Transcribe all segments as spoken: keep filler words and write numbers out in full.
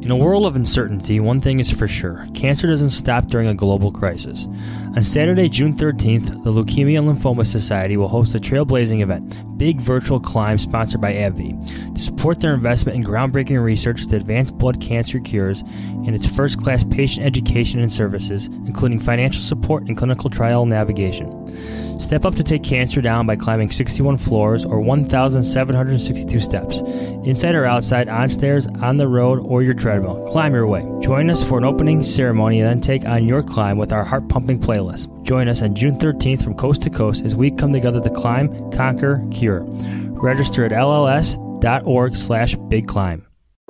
In a world of uncertainty, one thing is for sure. Cancer doesn't stop during a global crisis. On Saturday, June thirteenth, the Leukemia and Lymphoma Society will host a trailblazing event, Big Virtual Climb, sponsored by AbbVie, to support their investment in groundbreaking research to advance blood cancer cures and its first-class patient education and services, including financial support and clinical trial navigation. Step up to take cancer down by climbing sixty-one floors or one thousand seven hundred sixty-two steps. Inside or outside, on stairs, on the road, or your treadmill. Climb your way. Join us for an opening ceremony and then take on your climb with our heart-pumping playlist. Join us on June thirteenth from coast to coast as we come together to climb, conquer, cure. Register at L L S dot org slash big climb.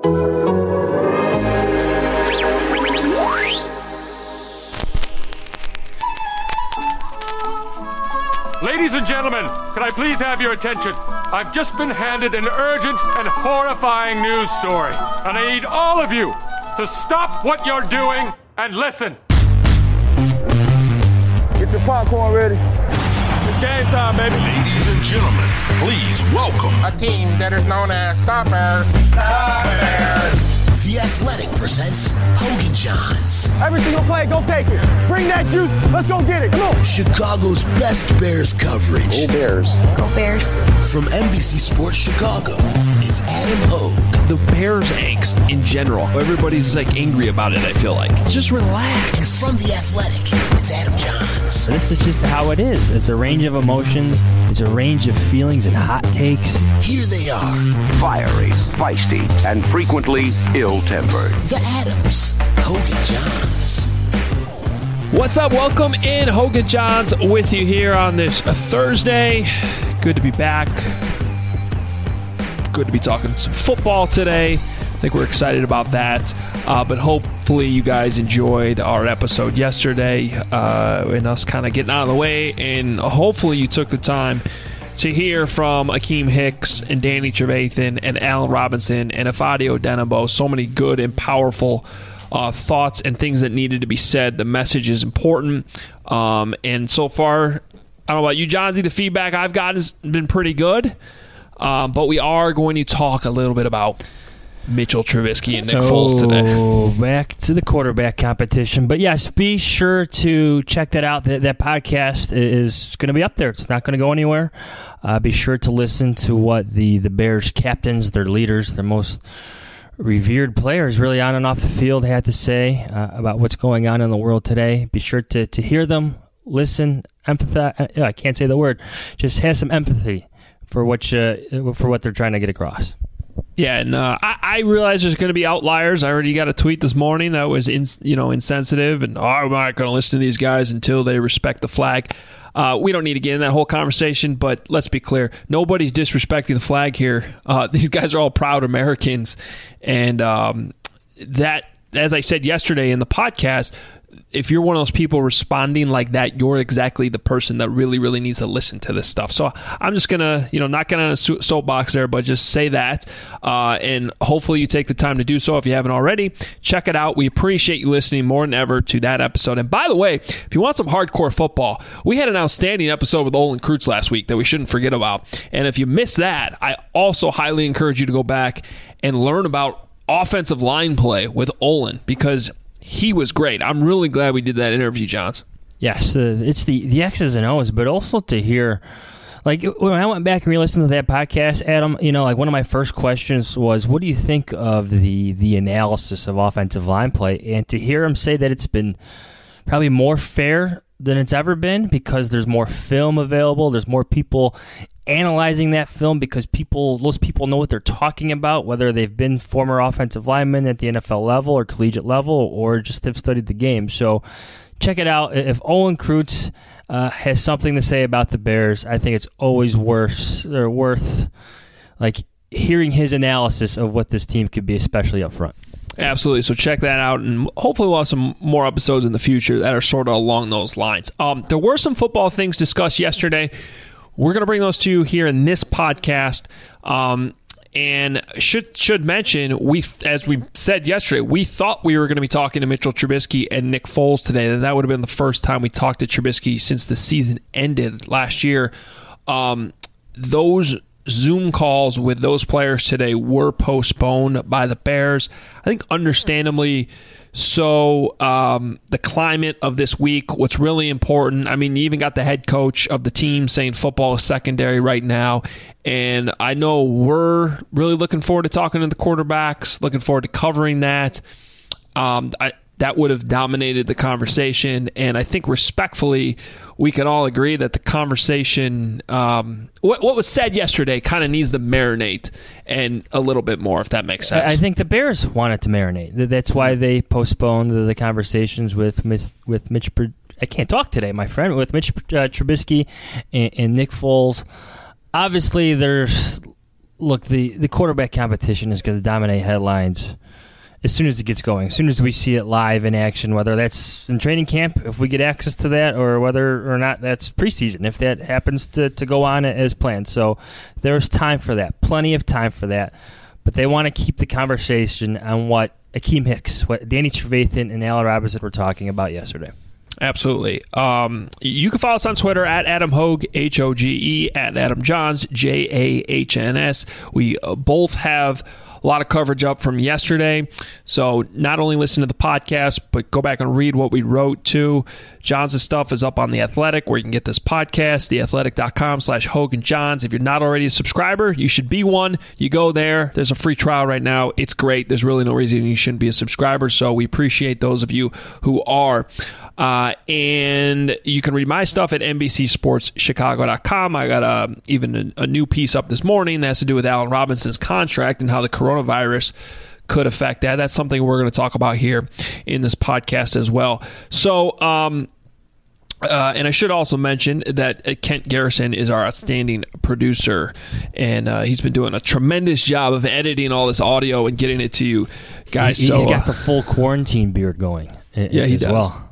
Ladies and gentlemen, can I please have your attention? I've just been handed an urgent and horrifying news story, and I need all of you to stop what you're doing and listen. Get your popcorn ready. It's game time, baby. Ladies and gentlemen, please welcome a team that is known as Stoppers. Stoppers. The Athletic presents Hogan Johns. Every single play, go take it. Bring that juice. Let's go get it. Come on. Chicago's best Bears coverage. Go Bears. Go Bears. From N B C Sports Chicago, it's Adam Hogue. The Bears angst in general. Everybody's like angry about it, I feel like. Just relax. And from The Athletic, it's Adam Johns. This is just how it is. It's a range of emotions. It's a range of feelings and hot takes. Here they are. Fiery, feisty, and frequently ill-tempered. The Adams. Hogan Johns. What's up? Welcome in. Hogan Johns with you here on this Thursday. Good to be back. Good to be talking some football today. I think we're excited about that. Uh, but hopefully you guys enjoyed our episode yesterday uh, and us kind of getting out of the way. And hopefully you took the time to hear from Akeem Hicks and Danny Trevathan and Allen Robinson and Ifeadi Odenigbo. So many good and powerful uh, thoughts and things that needed to be said. The message is important. Um, and so far, I don't know about you, Johnsy, the feedback I've gotten has been pretty good. Um, but we are going to talk a little bit about Mitchell Trubisky and Nick oh, Foles today. Back to the quarterback competition. But yes, be sure to check that out. That, that podcast is going to be up there. It's not going to go anywhere. Uh, be sure to listen to what the, the Bears captains, their leaders, their most revered players really on and off the field had to say uh, about what's going on in the world today. Be sure to, to hear them, listen, empathize. I can't say the word. Just have some empathy for what, you, for what they're trying to get across. Yeah, and uh, I, I realize there's going to be outliers. I already got a tweet this morning that was in, you know, insensitive, and oh, I'm not going to listen to these guys until they respect the flag. Uh, we don't need to get in that whole conversation, but let's be clear. Nobody's disrespecting the flag here. Uh, these guys are all proud Americans, and um, that, as I said yesterday in the podcast, if you're one of those people responding like that, you're exactly the person that really, really needs to listen to this stuff. So I'm just going to, you know, not get on a soapbox there, but just say that. Uh, and hopefully you take the time to do so if you haven't already. Check it out. We appreciate you listening more than ever to that episode. And by the way, if you want some hardcore football, we had an outstanding episode with Olin Kreutz last week that we shouldn't forget about. And if you missed that, I also highly encourage you to go back and learn about offensive line play with Olin, because he was great. I'm really glad we did that interview, Johns. Yes, uh, it's the, the X's and O's, but also to hear, like, when I went back and re-listened to that podcast, Adam, you know, like, one of my first questions was, what do you think of the, the analysis of offensive line play? And to hear him say that it's been probably more fair than it's ever been because there's more film available, there's more people analyzing that film because people, those people know what they're talking about, whether they've been former offensive linemen at the N F L level or collegiate level or just have studied the game. So check it out. If Olin Kreutz uh, has something to say about the Bears, I think it's always worth or worth like hearing his analysis of what this team could be, especially up front. Absolutely. So check that out, and hopefully we'll have some more episodes in the future that are sort of along those lines. Um, there were some football things discussed yesterday. We're going to bring those to you here in this podcast. Um, and should should mention, we as we said yesterday, we thought we were going to be talking to Mitchell Trubisky and Nick Foles today. And that would have been the first time we talked to Trubisky since the season ended last year. Um, those Zoom calls with those players today were postponed by the Bears. I think understandably so. Um, the climate of this week, what's really important, I mean, you even got the head coach of the team saying football is secondary right now. And I know we're really looking forward to talking to the quarterbacks, looking forward to covering that. Um, I, that would have dominated the conversation. And I think respectfully, we can all agree that the conversation, um, what, what was said yesterday kind of needs to marinate and a little bit more, if that makes sense. I think the Bears wanted to marinate. That's why they postponed the, the conversations with with Mitch. I can't talk today, my friend, with Mitch uh, Trubisky and, and Nick Foles. Obviously, there's look the, the quarterback competition is going to dominate headlines as soon as it gets going, as soon as we see it live in action, whether that's in training camp, if we get access to that, or whether or not that's preseason, if that happens to, to go on as planned. So there's time for that, plenty of time for that. But they want to keep the conversation on what Akeem Hicks, what Danny Trevathan and Allen Robinson were talking about yesterday. Absolutely. Um, you can follow us on Twitter at Adam Hoge, H O G E, at Adam Johns, J A H N S. We uh, both have a lot of coverage up from yesterday. So not only listen to the podcast, but go back and read what we wrote too. Johns' stuff is up on The Athletic, where you can get this podcast, theathletic.com slash Hogan Johns. If you're not already a subscriber, you should be one. You go there. There's a free trial right now. It's great. There's really no reason you shouldn't be a subscriber. So we appreciate those of you who are. Uh, and you can read my stuff at N B C Sports Chicago dot com. I got a, even a, a new piece up this morning that has to do with Allen Robinson's contract and how the coronavirus could affect that. That's something we're going to talk about here in this podcast as well. So, um, uh, and I should also mention that Kent Garrison is our outstanding producer, and uh, he's been doing a tremendous job of editing all this audio and getting it to you guys. He's, so, he's got uh, the full quarantine beard going. Yeah, he as does. Well.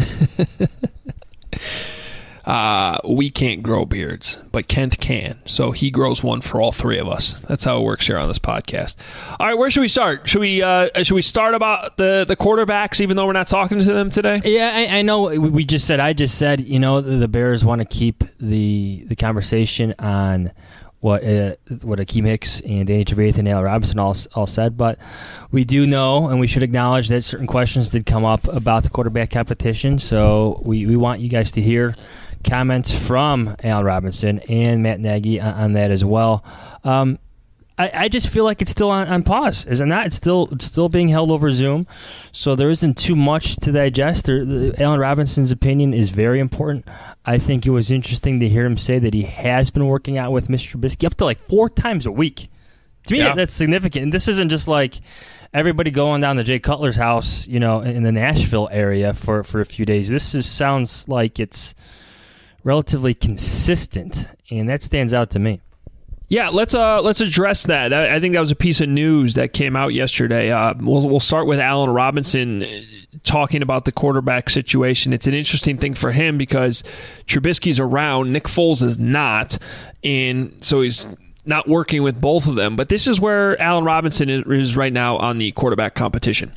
uh, we can't grow beards, but Kent can. So he grows one for all three of us. That's how it works here on this podcast. All right, where should we start? Should we uh, should we start about the, the quarterbacks, even though we're not talking to them today? Yeah, I, I know. We just said. I just said. You know, the, the Bears want to keep the the conversation on what uh, what Akeem Hicks and Danny Trevathan and Allen Robinson all all said, but we do know, and we should acknowledge that certain questions did come up about the quarterback competition. So we, we want you guys to hear comments from Allen Robinson and Matt Nagy on, on that as well. Um, I, I just feel like it's still on, on pause, is it not? It's still it's still being held over Zoom, so there isn't too much to digest. There, the, Allen Robinson's opinion is very important. I think it was interesting to hear him say that he has been working out with Mister Trubisky up to like four times a week. To me, yeah. that, that's significant. And this isn't just like everybody going down to Jay Cutler's house, you know, in the Nashville area for, for a few days. This is, sounds like it's relatively consistent, and that stands out to me. Yeah, let's uh let's address that. I, I think that was a piece of news that came out yesterday. Uh, we'll we'll start with Allen Robinson talking about the quarterback situation. It's an interesting thing for him because Trubisky's around, Nick Foles is not, and so he's not working with both of them. But this is where Allen Robinson is right now on the quarterback competition.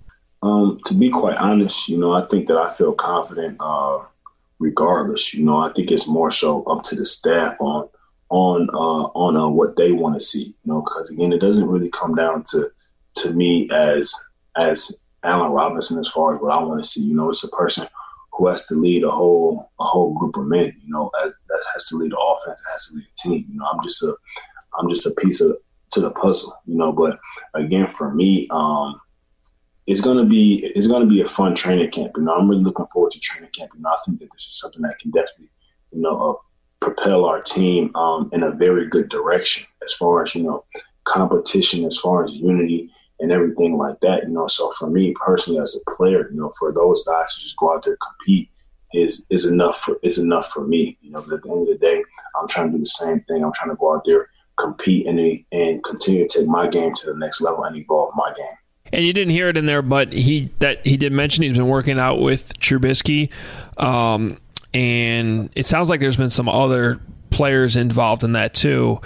Um, to be quite honest, you know, I think that I feel confident uh, regardless. You know, I think it's more so up to the staff on. on uh, on uh, what they want to see, you know, because again, it doesn't really come down to to me as as Allen Robinson as far as what I want to see. You know, it's a person who has to lead a whole a whole group of men. You know, that, that has to lead the offense, that has to lead the team. You know, I'm just a I'm just a piece of to the puzzle. You know, but again, for me, um, it's gonna be it's gonna be a fun training camp. You know, I'm really looking forward to training camp. You know, I think that this is something that can definitely, you know, uh, propel our team um, in a very good direction as far as, you know, competition, as far as unity and everything like that, you know. So for me personally as a player, you know, for those guys to just go out there and compete is is enough for is enough for me. You know, but at the end of the day, I'm trying to do the same thing. I'm trying to go out there, compete and and continue to take my game to the next level and evolve my game. And you didn't hear it in there, but he that he did mention he's been working out with Trubisky. Um And it sounds like there's been some other players involved in that too.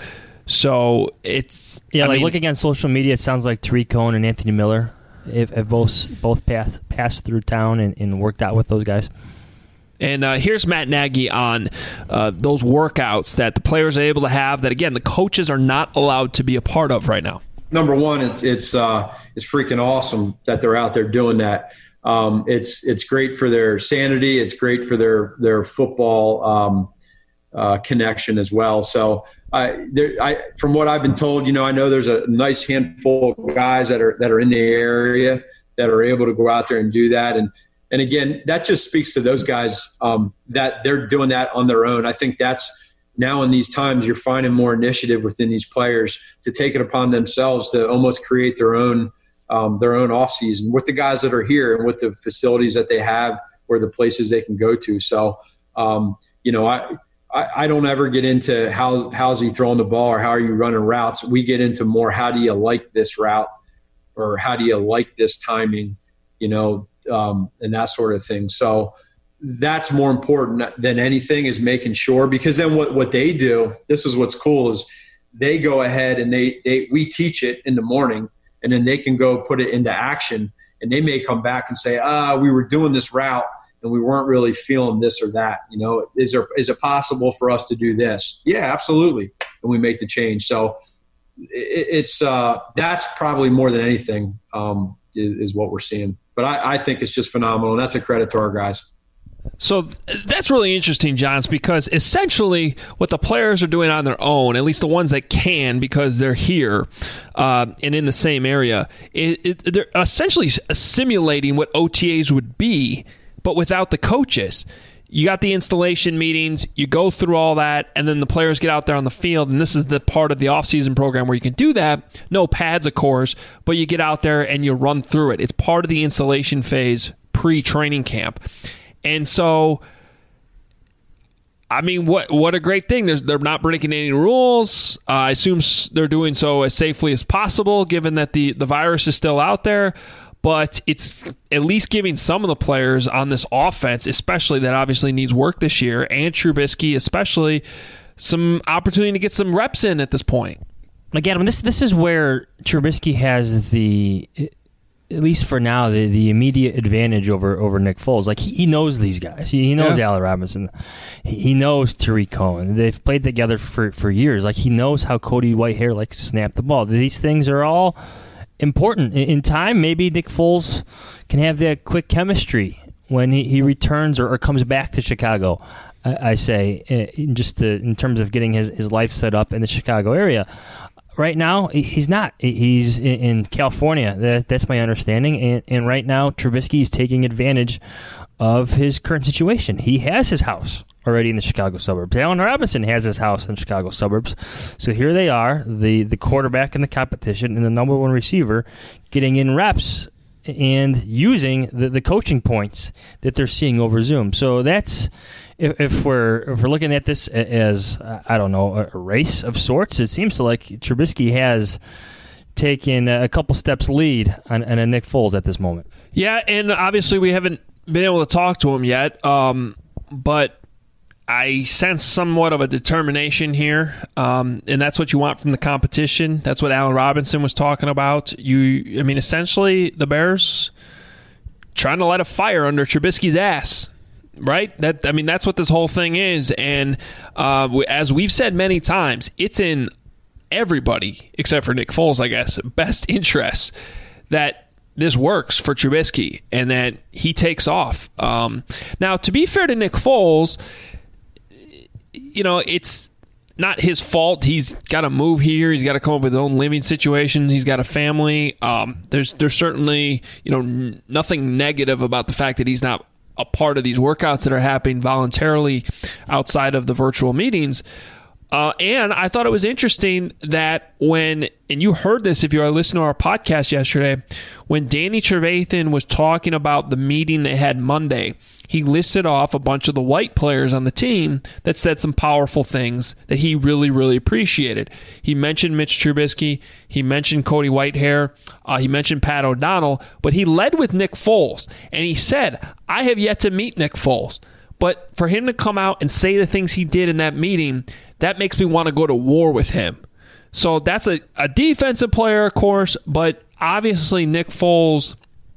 So it's yeah, I like mean, looking on social media, it sounds like Tariq Cohen and Anthony Miller have, have both both passed passed through town and, and worked out with those guys. And uh, here's Matt Nagy on uh, those workouts that the players are able to have that, again, the coaches are not allowed to be a part of right now. Number one, it's it's uh, it's freaking awesome that they're out there doing that. Um, it's it's great for their sanity. It's great for their their football um, uh, connection as well. So, I, there, I, from what I've been told, you know, I know there's a nice handful of guys that are that are in the area that are able to go out there and do that. And and again, that just speaks to those guys um, that they're doing that on their own. I think that's now in these times you're finding more initiative within these players to take it upon themselves to almost create their own um, their own off season with the guys that are here and with the facilities that they have or the places they can go to. So, um, you know, I. I don't ever get into how how's he throwing the ball or how are you running routes. We get into more how do you like this route or how do you like this timing, you know, um, and that sort of thing. So that's more important than anything is making sure, because then what, what they do, this is what's cool, is they go ahead and they, they we teach it in the morning and then they can go put it into action and they may come back and say, ah, we were doing this route and we weren't really feeling this or that. You know, is there is it possible for us to do this? Yeah, absolutely. And we make the change. So it, it's uh, that's probably more than anything um, is, is what we're seeing. But I, I think it's just phenomenal, and that's a credit to our guys. So that's really interesting, Johns, because essentially what the players are doing on their own, at least the ones that can because they're here uh, and in the same area, it, it, they're essentially simulating what O T As would be, but without the coaches. You got the installation meetings, you go through all that, and then the players get out there on the field, and this is the part of the offseason program where you can do that. No pads, of course, but you get out there and you run through it. It's part of the installation phase pre-training camp. And so, I mean, what what a great thing. They're, they're not breaking any rules. Uh, I assume they're doing so as safely as possible, given that the, the virus is still out there. But it's at least giving some of the players on this offense, especially that obviously needs work this year, and Trubisky especially, some opportunity to get some reps in at this point. Again, I mean, this this is where Trubisky has the, at least for now, the, the immediate advantage over, over Nick Foles. Like, he, he knows these guys. He, he knows yeah. Allen Robinson. He, he knows Tariq Cohen. They've played together for, for years. Like, he knows how Cody Whitehair likes to snap the ball. These things are all important. In time, maybe Nick Foles can have that quick chemistry when he, he returns or, or comes back to Chicago, I, I say, in just the, in terms of getting his, his life set up in the Chicago area. Right now, he's not. He's in California. That, that's my understanding. And, and right now, Trubisky is taking advantage of his current situation. He has his house already in the Chicago suburbs. Allen Robinson has his house in the Chicago suburbs. So here they are, the, the quarterback in the competition and the number one receiver getting in reps and using the, the coaching points that they're seeing over Zoom. So that's, if, if we're if we're looking at this as, I don't know, a race of sorts, it seems to like Trubisky has taken a couple steps lead on, on a Nick Foles at this moment. Yeah, and obviously we haven't been able to talk to him yet, um, but I sense somewhat of a determination here, um, and that's what you want from the competition. That's what Allen Robinson was talking about. You, I mean, essentially, the Bears trying to light a fire under Trubisky's ass, right? That I mean, that's what this whole thing is. And uh, as we've said many times, it's in everybody, except for Nick Foles, I guess, best interest that this works for Trubisky and that he takes off. Um, now, to be fair to Nick Foles, you know, it's not his fault. He's got to move here. He's got to come up with his own living situations. He's got a family. Um, there's there's certainly, you know, n- nothing negative about the fact that he's not a part of these workouts that are happening voluntarily outside of the virtual meetings. Uh, and I thought it was interesting that when, and you heard this if you are listening to our podcast yesterday, when Danny Trevathan was talking about the meeting they had Monday, he listed off a bunch of the white players on the team that said some powerful things that he really, really appreciated. He mentioned Mitch Trubisky. He mentioned Cody Whitehair. Uh, he mentioned Pat O'Donnell. But he led with Nick Foles. And he said, I have yet to meet Nick Foles. But for him to come out and say the things he did in that meeting, that makes me want to go to war with him. So that's a, a defensive player, of course, but obviously Nick Foles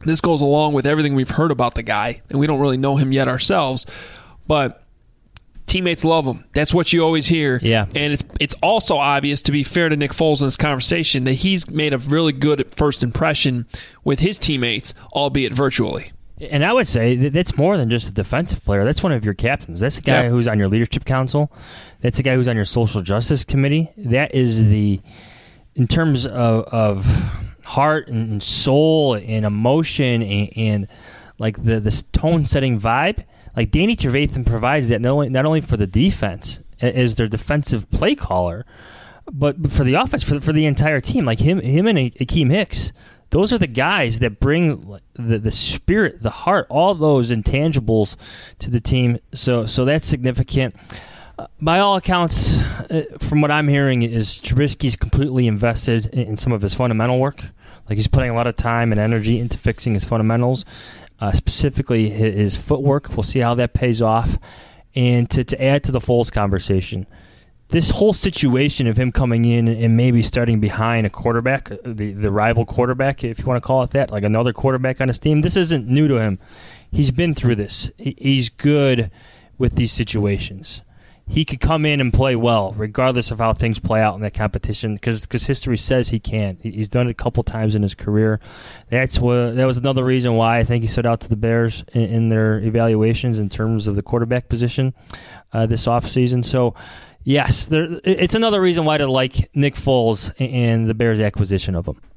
this goes along with everything we've heard about the guy, and we don't really know him yet ourselves, but teammates love him. That's what you always hear. Yeah. And it's it's also obvious, to be fair to Nick Foles in this conversation, that he's made a really good first impression with his teammates, albeit virtually. And I would say that that's more than just a defensive player. That's one of your captains. That's a guy yeah. who's on your leadership council. That's a guy who's on your social justice committee. That is the, in terms of, of heart and soul and emotion and, and like the this tone-setting vibe, like Danny Trevathan provides that not only, not only for the defense as their defensive play caller, but for the offense, for the, for the entire team. Like him, him and Akeem Hicks, those are the guys that bring the, the spirit, the heart, all those intangibles to the team. So so that's significant. Uh, by all accounts, uh, from what I'm hearing, is Trubisky's completely invested in, in some of his fundamental work. Like he's putting a lot of time and energy into fixing his fundamentals, uh, specifically his, his footwork. We'll see how that pays off. And to, to add to the Foles conversation, this whole situation of him coming in and maybe starting behind a quarterback, the, the rival quarterback, if you want to call it that, like another quarterback on his team, this isn't new to him. He's been through this. He, he's good with these situations. He could come in and play well, regardless of how things play out in that competition, because because history says he can. He's done it a couple times in his career. That's what that was another reason why I think he stood out to the Bears in, in their evaluations in terms of the quarterback position uh, this offseason. So, yes, there, it's another reason why to like Nick Foles and the Bears' acquisition of him.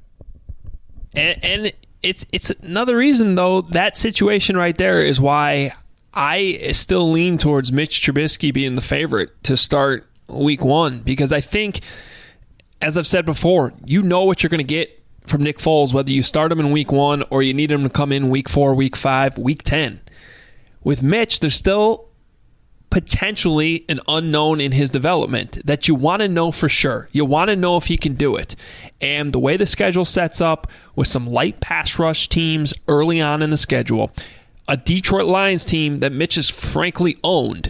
And, and it's it's another reason, though, that situation right there is why I still lean towards Mitch Trubisky being the favorite to start week one, because I think, as I've said before, you know what you're going to get from Nick Foles, whether you start him in week one or you need him to come in week four, week five, week ten. With Mitch, there's still potentially an unknown in his development that you want to know for sure. You want to know if he can do it. And the way the schedule sets up with some light pass rush teams early on in the schedule, a Detroit Lions team that Mitch has frankly owned.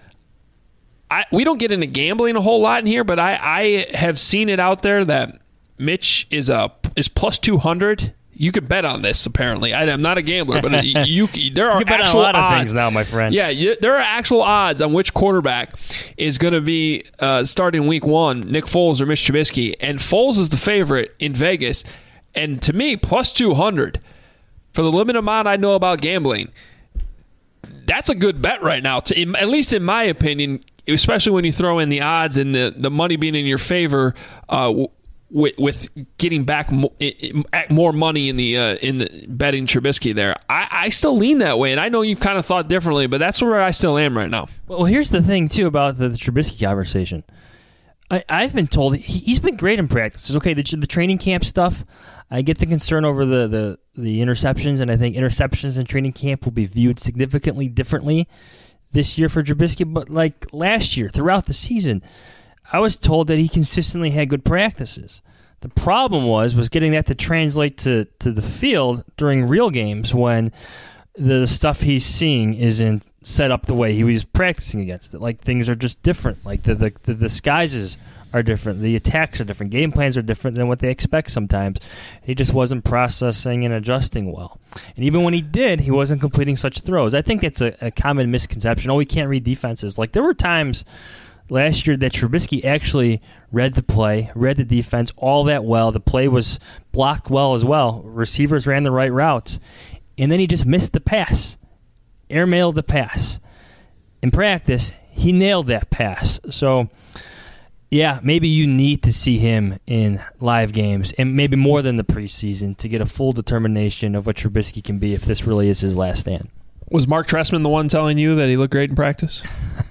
I, we don't get into gambling a whole lot in here, but I, I have seen it out there that Mitch is a is plus two hundred. You could bet on this, apparently. I, I'm not a gambler, but you, there are you bet actual on a lot odds of things now, my friend. Yeah, you, there are actual odds on which quarterback is going to be uh, starting week one, Nick Foles or Mitch Trubisky. And Foles is the favorite in Vegas. And to me, plus two hundred. For the limited amount I know about gambling, that's a good bet right now, to, at least in my opinion, especially when you throw in the odds and the, the money being in your favor uh, with, with getting back more, more money in the uh, in the betting Trubisky there. I, I still lean that way, and I know you've kind of thought differently, but that's where I still am right now. Well, here's the thing, too, about the, the Trubisky conversation. I, I've been told he, he's been great in practice. Okay, the, the training camp stuff, I get the concern over the, the, the interceptions, and I think interceptions in training camp will be viewed significantly differently this year for Trubisky. But like last year, throughout the season, I was told that he consistently had good practices. The problem was was getting that to translate to, to the field during real games when the stuff he's seeing isn't set up the way he was practicing against it. Like things are just different. Like the the, the disguises are different. The attacks are different. Game plans are different than what they expect sometimes. He just wasn't processing and adjusting well. And even when he did, he wasn't completing such throws. I think that's a, a common misconception. Oh, he can't read defenses. Like there were times last year that Trubisky actually read the play, read the defense all that well. The play was blocked well as well. Receivers ran the right routes. And then he just missed the pass. Airmailed the pass. In practice, he nailed that pass. So, yeah, maybe you need to see him in live games, and maybe more than the preseason, to get a full determination of what Trubisky can be if this really is his last stand. Was Mark Trestman the one telling you that he looked great in practice?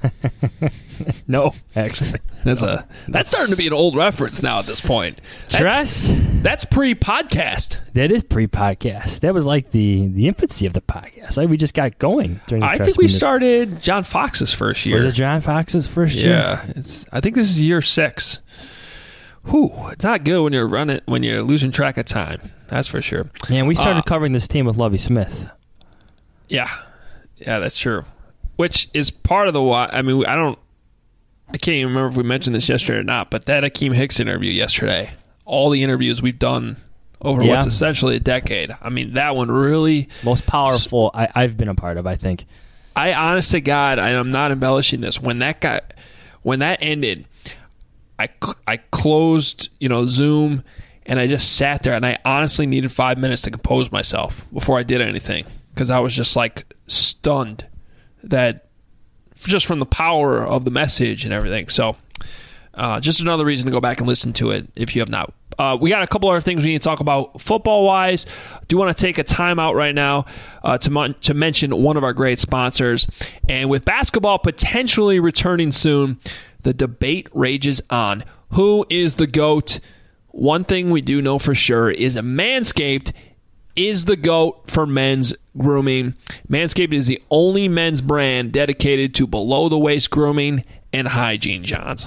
No, actually. That's no. a that's starting to be an old reference now at this point. That's, Tress? That's pre-podcast. That is pre-podcast. That was like the, the infancy of the podcast. Like we just got going during the I Tress think we minutes. started John Fox's first year. Was it John Fox's first year? Yeah. It's, I think this is year six. Whew, it's not good when you're running when you're losing track of time. That's for sure. Man, we started uh, covering this team with Lovie Smith. Yeah. Yeah, that's true. Which is part of the why. I mean, I don't. I can't even remember if we mentioned this yesterday or not, but that Akeem Hicks interview yesterday, all the interviews we've done over Yeah. what's essentially a decade. I mean, that one really... Most powerful I, I've been a part of, I think. I, honest to God, and I'm not embellishing this, when that got, when that ended, I, I closed, you know, Zoom, and I just sat there, and I honestly needed five minutes to compose myself before I did anything, because I was just, like, stunned that just from the power of the message and everything. So uh, just another reason to go back and listen to it if you have not. Uh, we got a couple other things we need to talk about football-wise. Do want to take a time out right now uh, to, mon- to mention one of our great sponsors. And with basketball potentially returning soon, the debate rages on. Who is the GOAT? One thing we do know for sure is Manscaped is the GOAT for men's grooming. Manscaped is the only men's brand dedicated to below-the-waist grooming and hygiene, Johns.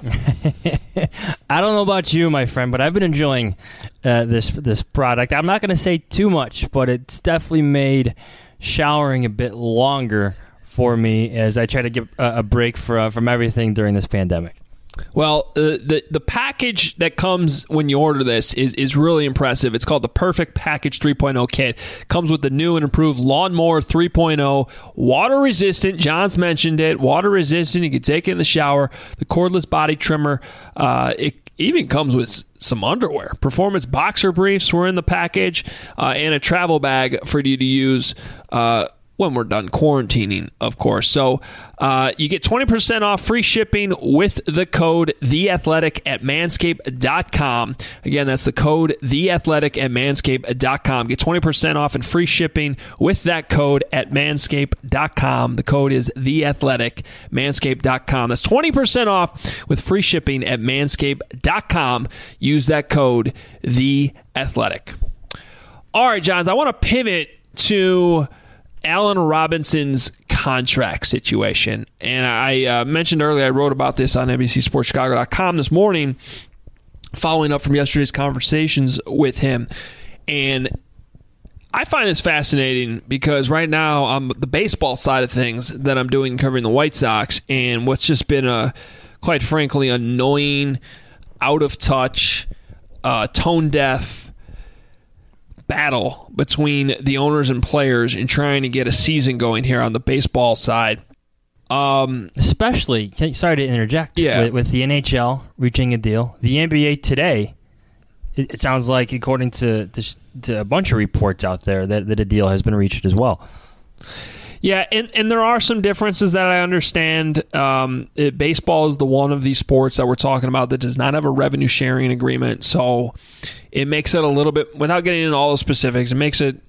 I don't know about you, my friend, but I've been enjoying uh, this this product. I'm not going to say too much, but it's definitely made showering a bit longer for me as I try to get a, a break for, uh, from everything during this pandemic. Well, uh, the the package that comes when you order this is, is really impressive. It's called the Perfect Package three point oh Kit. Comes with the new and improved Lawnmower three point oh, water resistant. John's mentioned it. Water resistant. You can take it in the shower. The cordless body trimmer. Uh, it even comes with some underwear. Performance boxer briefs were in the package, uh, and a travel bag for you to use Uh, when we're done quarantining, of course. So uh, you get twenty percent off free shipping with the code THEATHLETIC at manscaped dot com. Again, that's the code THEATHLETIC at manscaped dot com. Get twenty percent off and free shipping with that code at manscaped dot com. The code is THEATHLETIC, manscaped dot com. That's twenty percent off with free shipping at manscaped dot com. Use that code THEATHLETIC. All right, Johns, I want to pivot to Allen Robinson's contract situation. And I uh, mentioned earlier, I wrote about this on N B C Sports Chicago dot com this morning, following up from yesterday's conversations with him. And I find this fascinating because right now on the baseball side of things that I'm doing covering the White Sox, and what's just been a, quite frankly, annoying, out of touch, uh, tone deaf battle between the owners and players in trying to get a season going here on the baseball side. Um, Especially, sorry to interject, yeah. with, with the N H L reaching a deal. The N B A today, it, it sounds like, according to, to, to a bunch of reports out there, that, that a deal has been reached as well. Yeah, and, and there are some differences that I understand. Um, it, baseball is the one of these sports that we're talking about that does not have a revenue sharing agreement, so it makes it a little bit, without getting into all the specifics, it makes it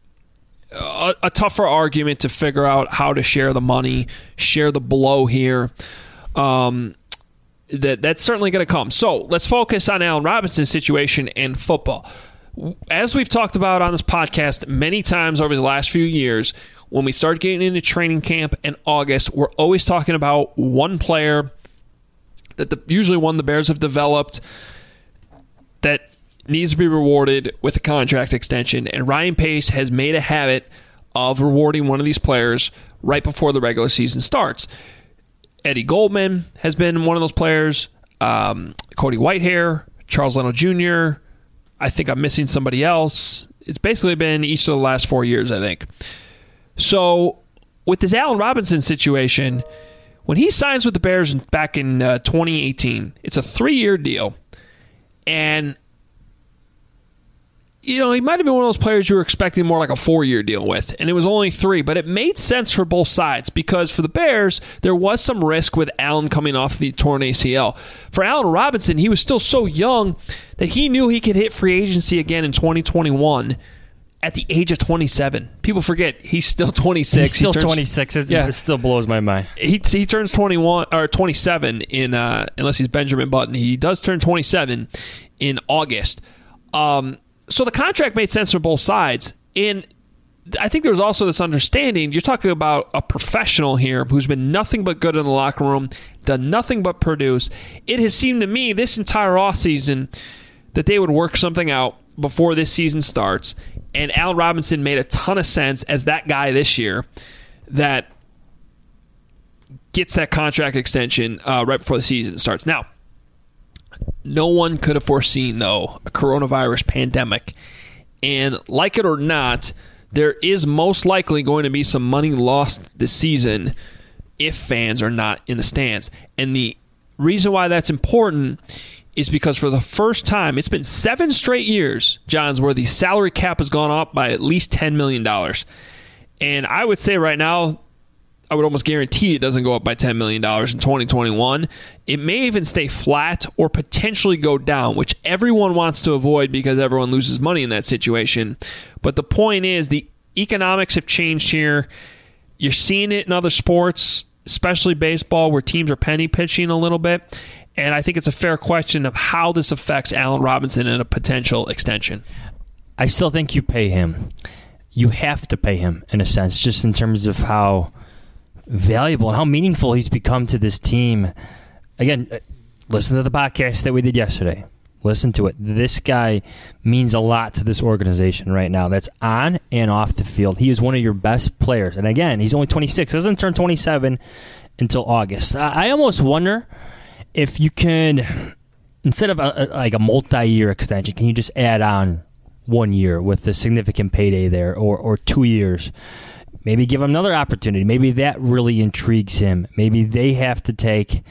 a, a tougher argument to figure out how to share the money, share the blow here. Um, that that's certainly going to come. So let's focus on Allen Robinson's situation in football. As we've talked about on this podcast many times over the last few years, when we start getting into training camp in August, we're always talking about one player that the, usually one the Bears have developed that needs to be rewarded with a contract extension. And Ryan Pace has made a habit of rewarding one of these players right before the regular season starts. Eddie Goldman has been one of those players. Um, Cody Whitehair, Charles Leno Junior I think I'm missing somebody else. It's basically been each of the last four years, I think. So with this Allen Robinson situation, when he signs with the Bears back in uh, twenty eighteen, it's a three-year deal. And, you know, he might have been one of those players you were expecting more like a four-year deal with, and it was only three. But it made sense for both sides because for the Bears, there was some risk with Allen coming off the torn A C L. For Allen Robinson, he was still so young that he knew he could hit free agency again in twenty twenty-one at the age of twenty-seven. People forget he's still twenty-six. He's still he turns, twenty-six. It, yeah. it still blows my mind. He he turns twenty-one or twenty-seven in uh, unless he's Benjamin Button. He does turn twenty-seven in August. Um, so the contract made sense for both sides. And I think there was also this understanding. You're talking about a professional here who's been nothing but good in the locker room, done nothing but produce. It has seemed to me this entire offseason that they would work something out before this season starts. And Allen Robinson made a ton of sense as that guy this year that gets that contract extension uh, right before the season starts. Now, no one could have foreseen, though, a coronavirus pandemic And like it or not, there is most likely going to be some money lost this season if fans are not in the stands. And the reason why that's important is because for the first time, it's been seven straight years, Johns, where the salary cap has gone up by at least ten million dollars. And I would say right now, I would almost guarantee it doesn't go up by ten million dollars in twenty twenty-one. It may even stay flat or potentially go down, which everyone wants to avoid because everyone loses money in that situation. But the point is, the economics have changed here. You're seeing it in other sports, especially baseball, where teams are penny pitching a little bit. And I think it's a fair question of how this affects Allen Robinson in a potential extension. I still think you pay him. You have to pay him, in a sense, just in terms of how valuable and how meaningful he's become to this team. Again, listen to the podcast that we did yesterday. Listen to it. This guy means a lot to this organization right now. That's on and off the field. He is one of your best players. And again, he's only twenty-six. Doesn't turn twenty-seven until August. I almost wonder if you can, instead of a, a, like a multi-year extension, can you just add on one year with a significant payday there, or, or two years? Maybe give him another opportunity. Maybe that really intrigues him. Maybe they have to take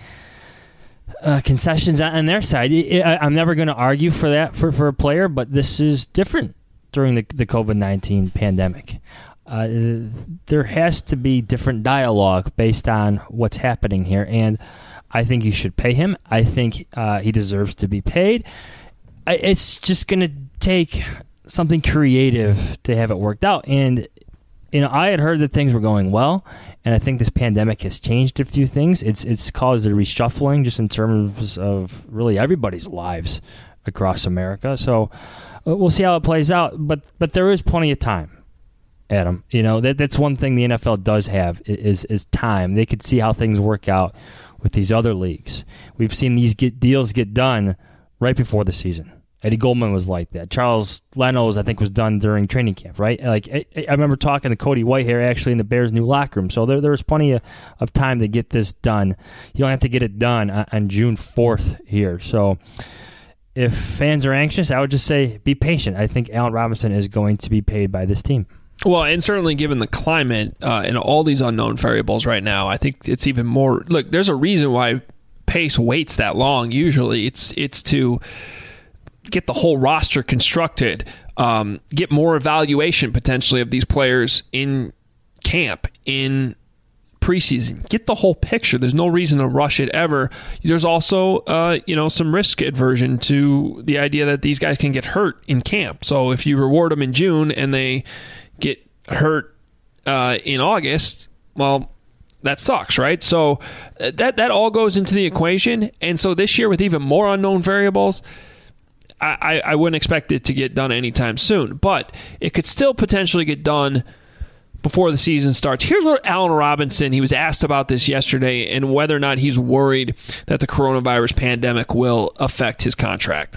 uh, concessions on their side. I, I'm never going to argue for that for, for a player, but this is different during the, the covid nineteen pandemic. Uh, there has to be different dialogue based on what's happening here, and I think you should pay him. I think uh, he deserves to be paid. It's just going to take something creative to have it worked out, and you know, I had heard that things were going well, and I think this pandemic has changed a few things. It's it's caused a reshuffling just in terms of really everybody's lives across America. So uh, we'll see how it plays out. But but there is plenty of time, Adam. You know, that that's one thing the N F L does have is is time. They could see how things work out with these other leagues. We've seen these get deals get done right before the season. Eddie Goldman was like that. Charles Leno's, I think, was done during training camp, right? Like I, I remember talking to Cody Whitehair actually in the Bears' new locker room. So there, there was plenty of, of time to get this done. You don't have to get it done on, on June fourth here. So if fans are anxious, I would just say be patient. I think Allen Robinson is going to be paid by this team. Well, and certainly given the climate uh, and all these unknown variables right now, I think it's even more. Look, there's a reason why Pace waits that long. Usually, it's it's to get the whole roster constructed, um, get more evaluation potentially of these players in camp, in preseason, get the whole picture. There's no reason to rush it ever. There's also, uh, you know, some risk aversion to the idea that these guys can get hurt in camp. So if you reward them in June and they get hurt uh, in August, well, that sucks, right? So that that all goes into the equation. And so this year with even more unknown variables, I, I wouldn't expect it to get done anytime soon, but it could still potentially get done before the season starts. Here's what Allen Robinson, he was asked about this yesterday and whether or not he's worried that the coronavirus pandemic will affect his contract.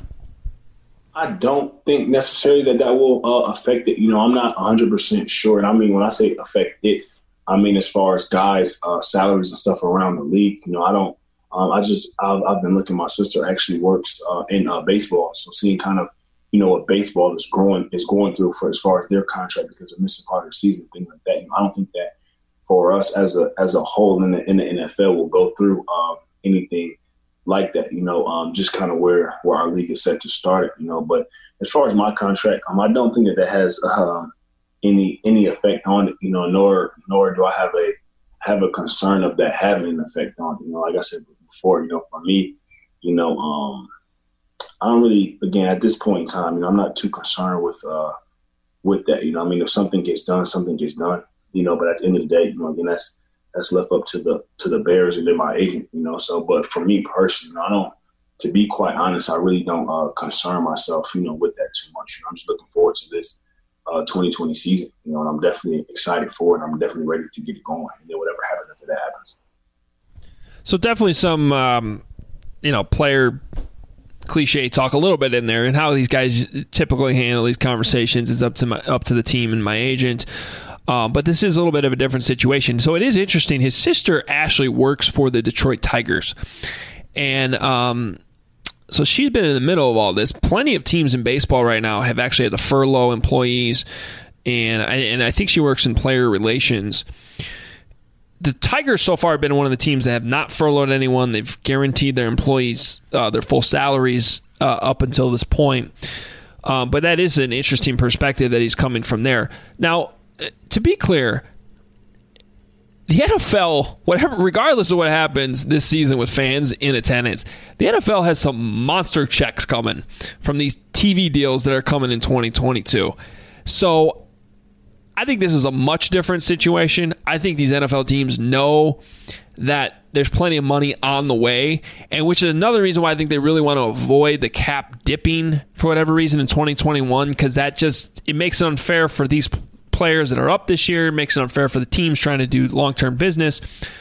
I don't think necessarily that that will uh, affect it. You know, I'm not one hundred percent sure. And I mean, when I say affect it, I mean as far as guys' uh, salaries and stuff around the league. You know, I don't. Um, I just I've, I've been looking. My sister actually works uh, in uh, baseball, so seeing kind of you know what baseball is growing is going through for as far as their contract because of missing part of the season, things like that. You know, I don't think that for us as a as a whole in the in the N F L will go through um, anything like that. You know, um, just kind of where where our league is set to start it. You know, but as far as my contract, um, I don't think that that has um, any any effect on it. You know, nor nor do I have a have a concern of that having an effect on it. You know, like I said before, you know, for me, you know, um, I don't really, again, at this point in time, you know, I'm not too concerned with uh, with that. You know, I mean, if something gets done, something gets done. You know, but at the end of the day, you know, again, that's that's left up to the to the Bears and then my agent. You know, so but for me personally, you know, I don't. To be quite honest, I really don't uh, concern myself, you know, with that too much. You know, I'm just looking forward to this uh, twenty twenty season. You know, and I'm definitely excited for it. I'm definitely ready to get it going. And then whatever happens after that happens. So definitely some, um, you know, player cliche talk a little bit in there, and how these guys typically handle these conversations is up to my, up to the team and my agent. Um, but this is a little bit of a different situation. So it is interesting. His sister Ashley works for the Detroit Tigers, and um, so she's been in the middle of all this. Plenty of teams in baseball right now have actually had to furlough employees, and I, and I think she works in player relations. The Tigers so far have been one of the teams that have not furloughed anyone. They've guaranteed their employees uh, their full salaries uh, up until this point. Um, but that is an interesting perspective that he's coming from there. Now, to be clear, the N F L, whatever, regardless of what happens this season with fans in attendance, the N F L has some monster checks coming from these T V deals that are coming in twenty twenty-two. So I think this is a much different situation. I think these N F L teams know that there's plenty of money on the way, and which is another reason why I think they really want to avoid the cap dipping for whatever reason in twenty twenty-one, because that just, it makes it unfair for these players that are up this year. It makes it unfair for the teams trying to do long-term business.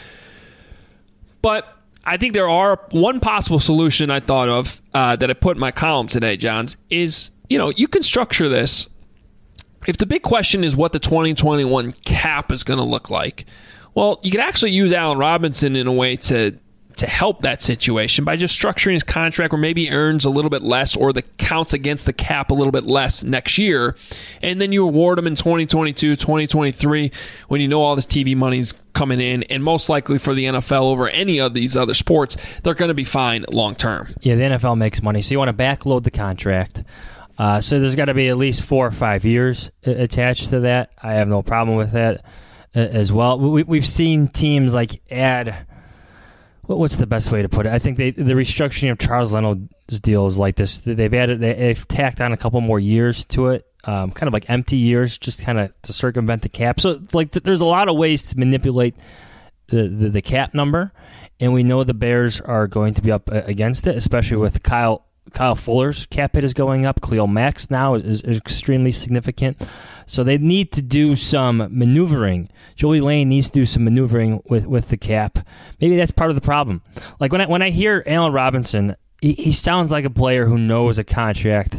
But I think there are one possible solution I thought of uh, that I put in my column today, Johns, is, you know, you can structure this. If the big question is what the twenty twenty-one cap is going to look like, well, you could actually use Allen Robinson in a way to to help that situation by just structuring his contract where maybe he earns a little bit less or the counts against the cap a little bit less next year, and then you award him in twenty twenty-two, twenty twenty-three when you know all this T V money's coming in, and most likely for the N F L over any of these other sports, they're going to be fine long term. Yeah, the N F L makes money, so you want to backload the contract. Uh, so there's got to be at least four or five years attached to that. I have no problem with that uh, as well. We, we've seen teams like add, what's the best way to put it? I think they, the restructuring of Charles Leno's deal is like this. They've added, they've tacked on a couple more years to it, um, kind of like empty years, just kind of to circumvent the cap. So it's like there's a lot of ways to manipulate the, the, the cap number, and we know the Bears are going to be up against it, especially with Kyle Kyle Fuller's cap hit is going up. Khalil Mack's now is, is extremely significant. So they need to do some maneuvering. Joey Lane needs to do some maneuvering with, with the cap. Maybe that's part of the problem. Like when I, when I hear Allen Robinson, he, he sounds like a player who knows a contract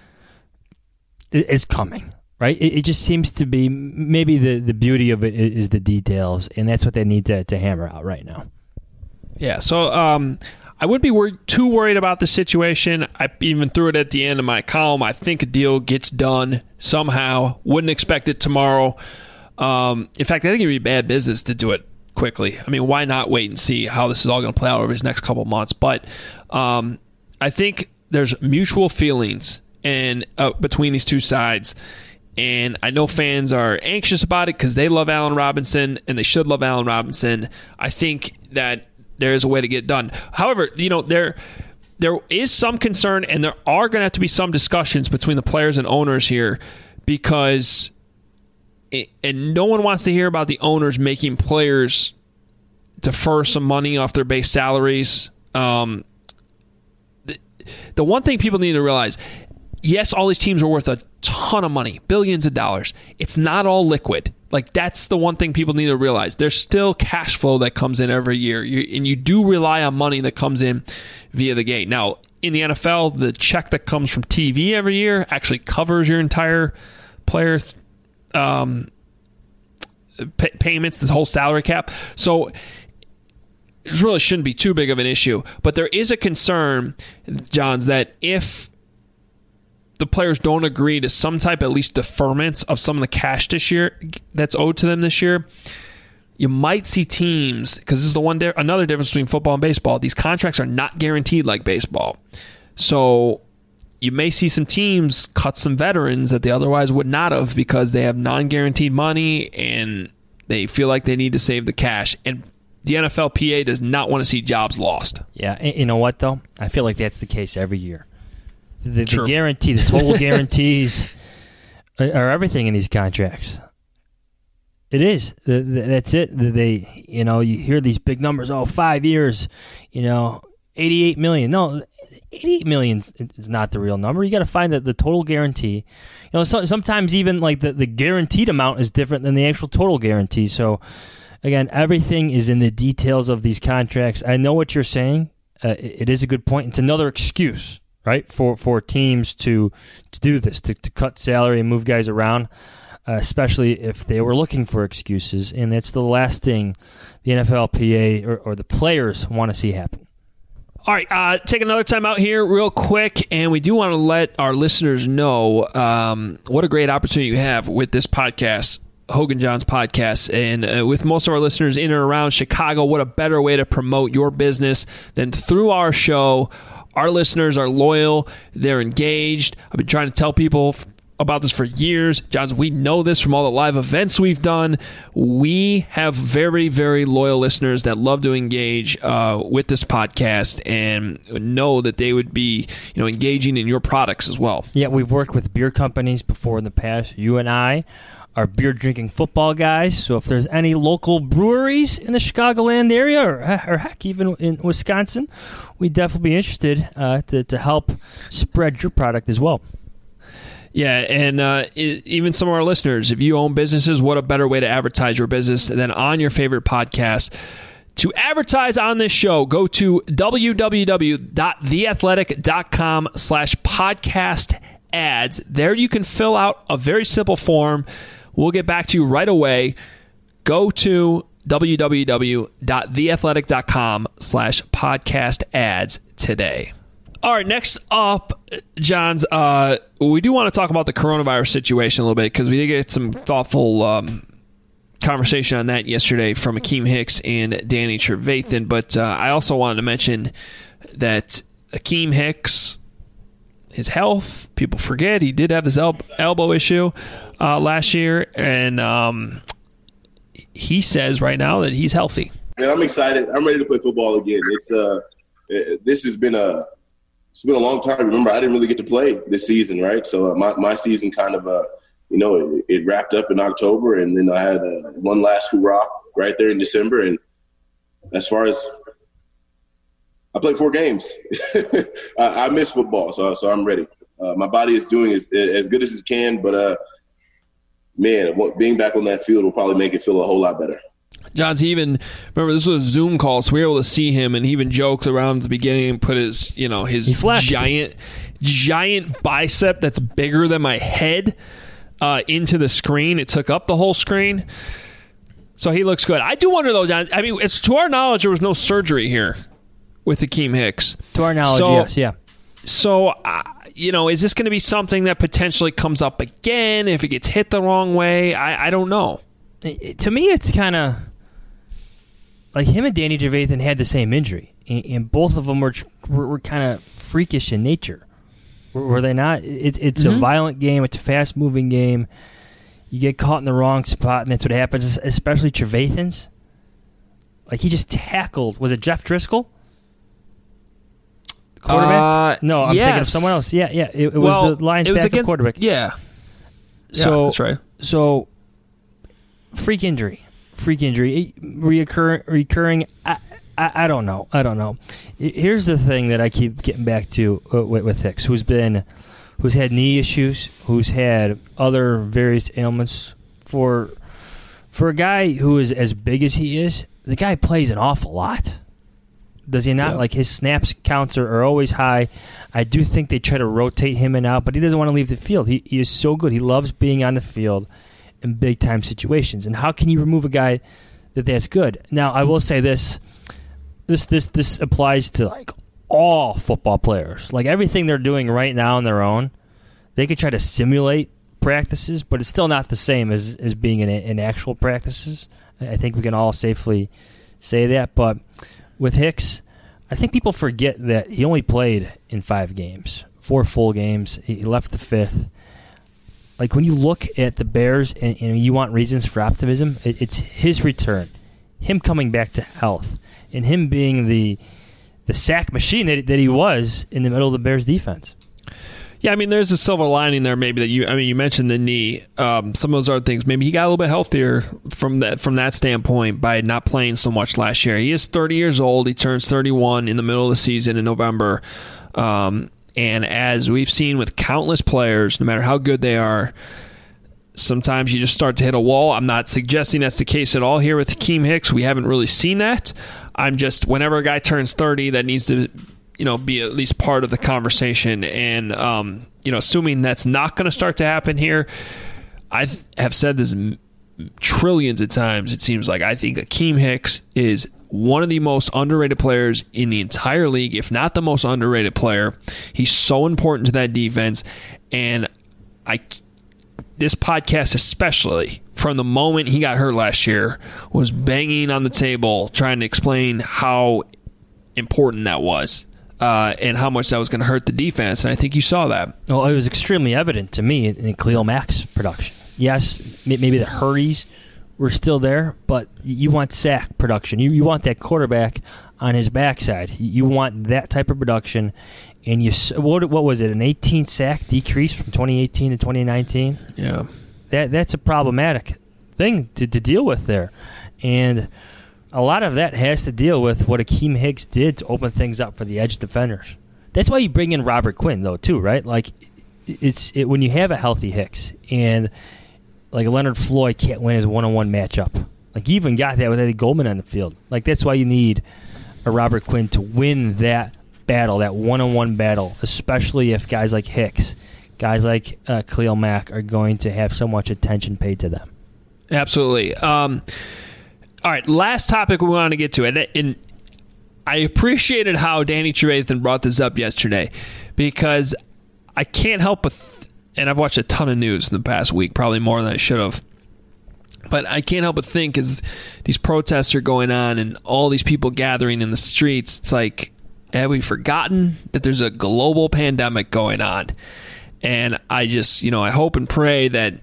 is coming, right? It, it just seems to be, maybe the, the beauty of it is the details, and that's what they need to, to hammer out right now. Yeah, so um, I wouldn't be worried, too worried about the situation. I even threw it at the end of my column. I think a deal gets done somehow. Wouldn't expect it tomorrow. Um, in fact, I think it would be bad business to do it quickly. I mean, why not wait and see how this is all going to play out over these next couple of months? But um, I think there's mutual feelings and uh, between these two sides. And I know fans are anxious about it because they love Allen Robinson, and they should love Allen Robinson. I think that there is a way to get it done. However, you know, there there is some concern, and there are going to have to be some discussions between the players and owners here, because it, and no one wants to hear about the owners making players defer some money off their base salaries. Um, the, the one thing people need to realize, yes, all these teams are worth a ton of money, billions of dollars. It's not all liquid. Like, that's the one thing people need to realize. There's still cash flow that comes in every year, you, and you do rely on money that comes in via the gate. Now, in the N F L, the check that comes from T V every year actually covers your entire player um, pay- payments, this whole salary cap. So it really shouldn't be too big of an issue. But there is a concern, Johns, that if the players don't agree to some type, at least deferments of some of the cash this year that's owed to them this year, you might see teams, because this is the one di- another difference between football and baseball. These contracts are not guaranteed like baseball. So you may see some teams cut some veterans that they otherwise would not have because they have non-guaranteed money and they feel like they need to save the cash. And the N F L P A does not want to see jobs lost. Yeah, you know what, though? I feel like that's the case every year. The, the sure. guarantee, the total guarantees are everything in these contracts. It is. The, the, that's it. The, they, you know, you hear these big numbers. Oh, five years, you know, eighty-eight million. No, eighty-eight million is not the real number. You got to find the, the total guarantee. You know, so, sometimes even like the, the guaranteed amount is different than the actual total guarantee. So, again, everything is in the details of these contracts. I know what you're saying. Uh, it, it is a good point. It's another excuse, right, for, for teams to to do this, to, to cut salary and move guys around, uh, especially if they were looking for excuses. And that's the last thing the N F L P A or, or the players want to see happen. All right, uh, take another time out here real quick, and we do want to let our listeners know um, what a great opportunity you have with this podcast, Hogan Johns Podcast. And uh, with most of our listeners in and around Chicago, what a better way to promote your business than through our show. Our listeners are loyal. They're engaged. I've been trying to tell people f- about this for years. Johns, we know this from all the live events we've done. We have very, very loyal listeners that love to engage uh, with this podcast and know that they would be, you know, engaging in your products as well. Yeah, we've worked with beer companies before in the past. You and I are beer-drinking football guys, so if there's any local breweries in the Chicagoland area, or, or heck, even in Wisconsin, we'd definitely be interested uh, to, to help spread your product as well. Yeah, and uh, it, even some of our listeners, if you own businesses, what a better way to advertise your business than on your favorite podcast. To advertise on this show, go to www.theathletic.com slash podcast ads. There you can fill out a very simple form. We'll get back to you right away. Go to www.theathletic.com slash podcast ads today. All right, next up, Johns, uh, we do want to talk about the coronavirus situation a little bit because we did get some thoughtful um, conversation on that yesterday from Akeem Hicks and Danny Trevathan. But uh, I also wanted to mention that Akeem Hicks, his health, people forget he did have this el- elbow issue uh, last year, and um, he says right now that he's healthy. Man, I'm excited. I'm ready to play football again. It's uh, this has been a it's been a long time. Remember, I didn't really get to play this season, right? So uh, my my season kind of uh, you know, it, it wrapped up in October, and then I had uh, one last hurrah right there in December. And as far as I played four games, I, I miss football, so so I'm ready. Uh, my body is doing as as good as it can, but uh, man, being back on that field will probably make it feel a whole lot better. Johns, he even, remember, this was a Zoom call, so we were able to see him, and he even joked around at the beginning and put his, you know, his giant, giant bicep that's bigger than my head uh, into the screen. It took up the whole screen. So he looks good. I do wonder, though, John, I mean, it's to our knowledge, there was no surgery here with Akeem Hicks. To our knowledge, so, yes, yeah. So, uh, you know, is this going to be something that potentially comes up again if it gets hit the wrong way? I, I don't know. It, to me, it's kind of like him and Danny Trevathan had the same injury, and, and both of them were were, were kind of freakish in nature. Were, were they not? It, it's mm-hmm. a violent game. It's a fast-moving game. You get caught in the wrong spot, and that's what happens, especially Trevathan's. Like, he just tackled, was it Jeff Driscoll? Quarterback? Uh, no, I'm yes. thinking of someone else. Yeah, yeah. It, it well, was the Lions' it was backup against, quarterback. Yeah. So, yeah, that's right. So, freak injury. Freak injury. Reoccur, recurring. I, I, I don't know. I don't know. Here's the thing that I keep getting back to uh, with, with Hicks, who's been, who's had knee issues, who's had other various ailments. For, for a guy who is as big as he is, the guy plays an awful lot. Does he not? Yeah. Like, his snaps counts are, are always high. I do think they try to rotate him in and out, but he doesn't want to leave the field. He he is so good. He loves being on the field in big-time situations. And how can you remove a guy that that's good? Now, I will say this. This this this applies to, like, all football players. Like, everything they're doing right now on their own, they could try to simulate practices, but it's still not the same as, as being in, in actual practices. I think we can all safely say that, but with Hicks, I think people forget that he only played in five games, four full games. He left the fifth. Like, when you look at the Bears and, and you want reasons for optimism, it, it's his return, him coming back to health, and him being the the sack machine that, that he was in the middle of the Bears' defense. Yeah, I mean, there's a silver lining there maybe that you, I mean, you mentioned the knee. Um, some of those other things, maybe he got a little bit healthier from that from that standpoint by not playing so much last year. He is thirty years old. He turns thirty-one in the middle of the season in November. Um, and as we've seen with countless players, no matter how good they are, sometimes you just start to hit a wall. I'm not suggesting that's the case at all here with Akeem Hicks. We haven't really seen that. I'm just, whenever a guy turns thirty, that needs to, you know, be at least part of the conversation. And, um, you know, assuming that's not going to start to happen here, I have said this m- trillions of times, it seems like. I think Akeem Hicks is one of the most underrated players in the entire league, if not the most underrated player. He's so important to that defense, and I, this podcast especially, from the moment he got hurt last year, was banging on the table trying to explain how important that was uh, and how much that was going to hurt the defense, and I think you saw that. Well, it was extremely evident to me in Khalil Mack's production. Yes, maybe the hurries were still there, but you want sack production. You you want that quarterback on his backside. You want that type of production. And you what what was it? An eighteen sack decrease from twenty eighteen to twenty nineteen. Yeah, that that's a problematic thing to, to deal with there, and a lot of that has to deal with what Akeem Hicks did to open things up for the edge defenders. That's why you bring in Robert Quinn, though, too, right? Like it's it, when you have a healthy Hicks and like Leonard Floyd can't win his one-on-one matchup. Like, you even got that with Eddie Goldman on the field. Like, that's why you need a Robert Quinn to win that battle, that one-on-one battle, especially if guys like Hicks, guys like uh, Khalil Mack are going to have so much attention paid to them. Absolutely. Um, all right, last topic we want to get to. And, and I appreciated how Danny Trevathan brought this up yesterday, because I can't help but... Th- and I've watched a ton of news in the past week, probably more than I should have. But I can't help but think as these protests are going on and all these people gathering in the streets, it's like, have we forgotten that there's a global pandemic going on? And I just, you know, I hope and pray that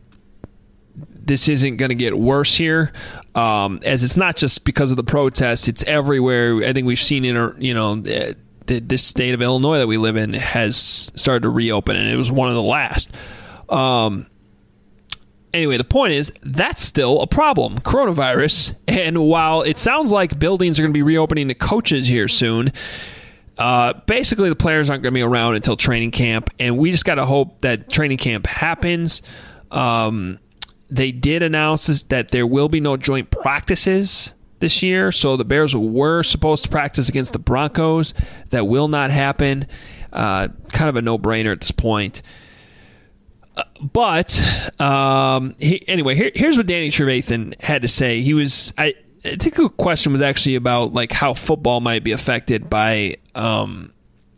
this isn't going to get worse here, um, as it's not just because of the protests, it's everywhere. I think we've seen in, you know, this state of Illinois that we live in has started to reopen, and it was one of the last. Um, anyway, the point is, that's still a problem, coronavirus. And while it sounds like buildings are going to be reopening to coaches here soon, uh, basically the players aren't going to be around until training camp, and we just got to hope that training camp happens. Um, they did announce that there will be no joint practices this year, so the Bears were supposed to practice against the Broncos. That will not happen. Uh, kind of a no-brainer at this point. Uh, but um, he, anyway, here, here's what Danny Trevathan had to say. He was, I, I think the question was actually about like how football might be affected by, um,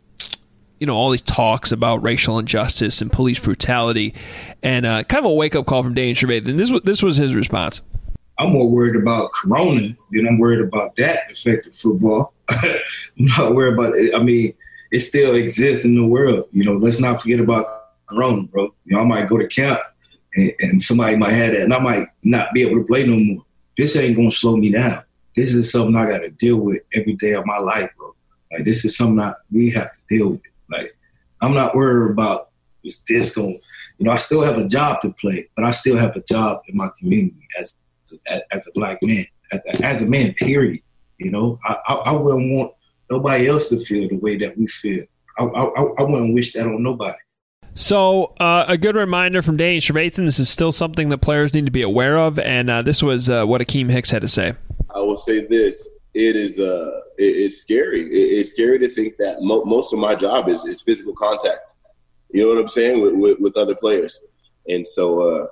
you know, all these talks about racial injustice and police brutality, and uh, kind of a wake-up call from Danny Trevathan. This was this was his response. I'm more worried about Corona than I'm worried about that affecting football. I'm not worried about it. I mean, it still exists in the world. You know, let's not forget about Corona, bro. You know, I might go to camp and, and somebody might have that, and I might not be able to play no more. This ain't going to slow me down. This is something I got to deal with every day of my life, bro. Like, this is something I, we have to deal with. Like, I'm not worried about is this going, you know, I still have a job to play, but I still have a job in my community as as a black man, as a man, period. You know, I, I, I wouldn't want nobody else to feel the way that we feel. I, I, I wouldn't wish that on nobody. So uh, a good reminder from Danny Trevathan, this is still something that players need to be aware of, and uh, this was uh, what Akeem Hicks had to say. I will say this. It is uh, it, it's scary. It, it's scary to think that mo- most of my job is, is physical contact. You know what I'm saying? With, with, with other players. And so, uh,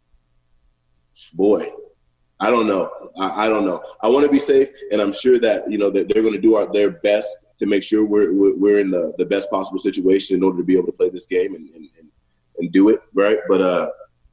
boy, I don't know. I, I don't know. I want to be safe, and I'm sure that, you know, that they're going to do our, their best to make sure we're we're in the, the best possible situation in order to be able to play this game and and, and, and do it, right? But uh,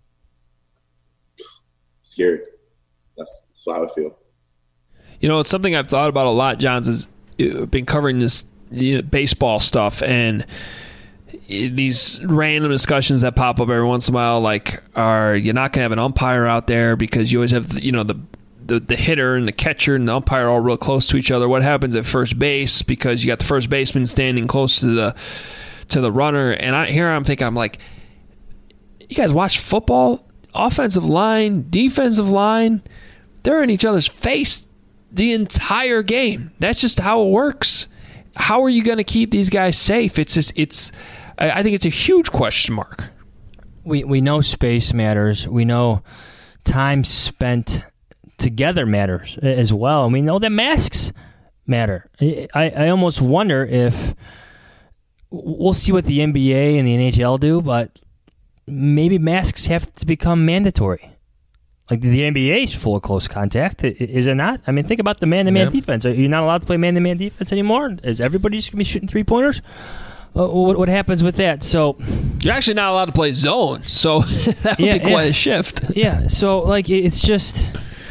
scary. That's, that's how I feel. You know, it's something I've thought about a lot, Johns, is I've been covering this, you know, baseball stuff, and these random discussions that pop up every once in a while, like, are you not going to have an umpire out there because you always have, you know, the, the the hitter and the catcher and the umpire all real close to each other? What happens at first base because you got the first baseman standing close to the to the runner? And I here I'm thinking, I'm like, you guys watch football? Offensive line, defensive line, they're in each other's face the entire game. That's just how it works. How are you going to keep these guys safe? It's just it's. I think it's a huge question mark. We we know space matters. We know time spent together matters as well. And we know that masks matter. I, I almost wonder if we'll see what the N B A and the N H L do, but maybe masks have to become mandatory. Like the N B A is full of close contact, is it not? I mean, think about the man-to-man yep. defense. Are you not allowed to play man-to-man defense anymore? Is everybody just going to be shooting three-pointers? Uh, what, what happens with that? So you're actually not allowed to play zone, so that would yeah, be quite yeah. a shift. Yeah, so like it's just,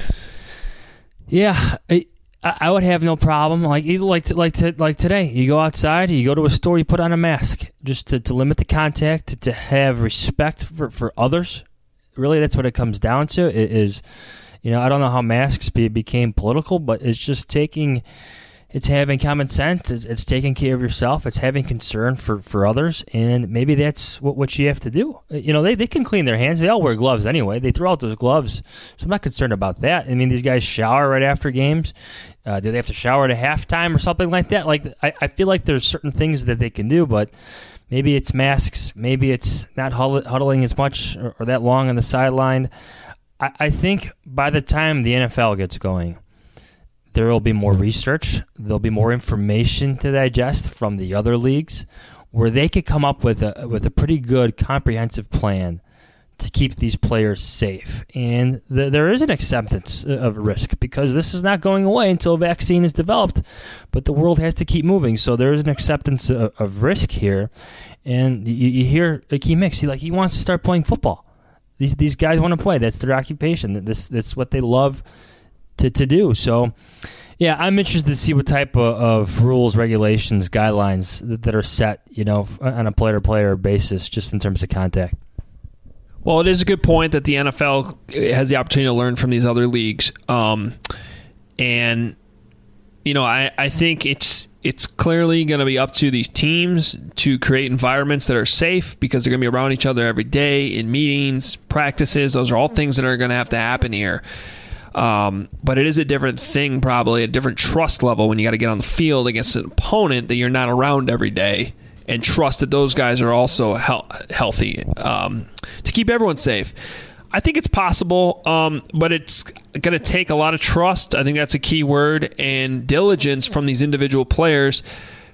yeah, I, I would have no problem. Like like like to, like today, you go outside, you go to a store, you put on a mask just to, to limit the contact, to, to have respect for, for others. Really, that's what it comes down to. It is, you know, I don't know how masks be, became political, but it's just taking. It's having common sense. It's, it's taking care of yourself. It's having concern for, for others, and maybe that's what, what you have to do. You know, they, they can clean their hands. They all wear gloves anyway. They throw out those gloves, so I'm not concerned about that. I mean, these guys shower right after games. Uh, do they have to shower at a halftime or something like that? Like, I, I feel like there's certain things that they can do, but maybe it's masks. Maybe it's not huddling as much or, or that long on the sideline. I, I think by the time the N F L gets going, there will be more research. There'll be more information to digest from the other leagues, where they could come up with a with a pretty good comprehensive plan to keep these players safe. And the, there is an acceptance of risk because this is not going away until a vaccine is developed. But the world has to keep moving, so there is an acceptance of, of risk here. And you, you hear Akeem Hicks, he like he wants to start playing football. These these guys want to play. That's their occupation. This that's what they love to, to do. So, yeah, I'm interested to see what type of, of rules, regulations, guidelines that, that are set, you know, on a player-to-player basis, just in terms of contact. Well, it is a good point that the N F L has the opportunity to learn from these other leagues. Um, and, you know, I, I think it's it's clearly going to be up to these teams to create environments that are safe because they're going to be around each other every day in meetings, practices. Those are all things that are going to have to happen here. Um, but it is a different thing, probably a different trust level when you got to get on the field against an opponent that you're not around every day, and trust that those guys are also he- healthy um, to keep everyone safe. I think it's possible, um, but it's going to take a lot of trust. I think that's a key word, and diligence from these individual players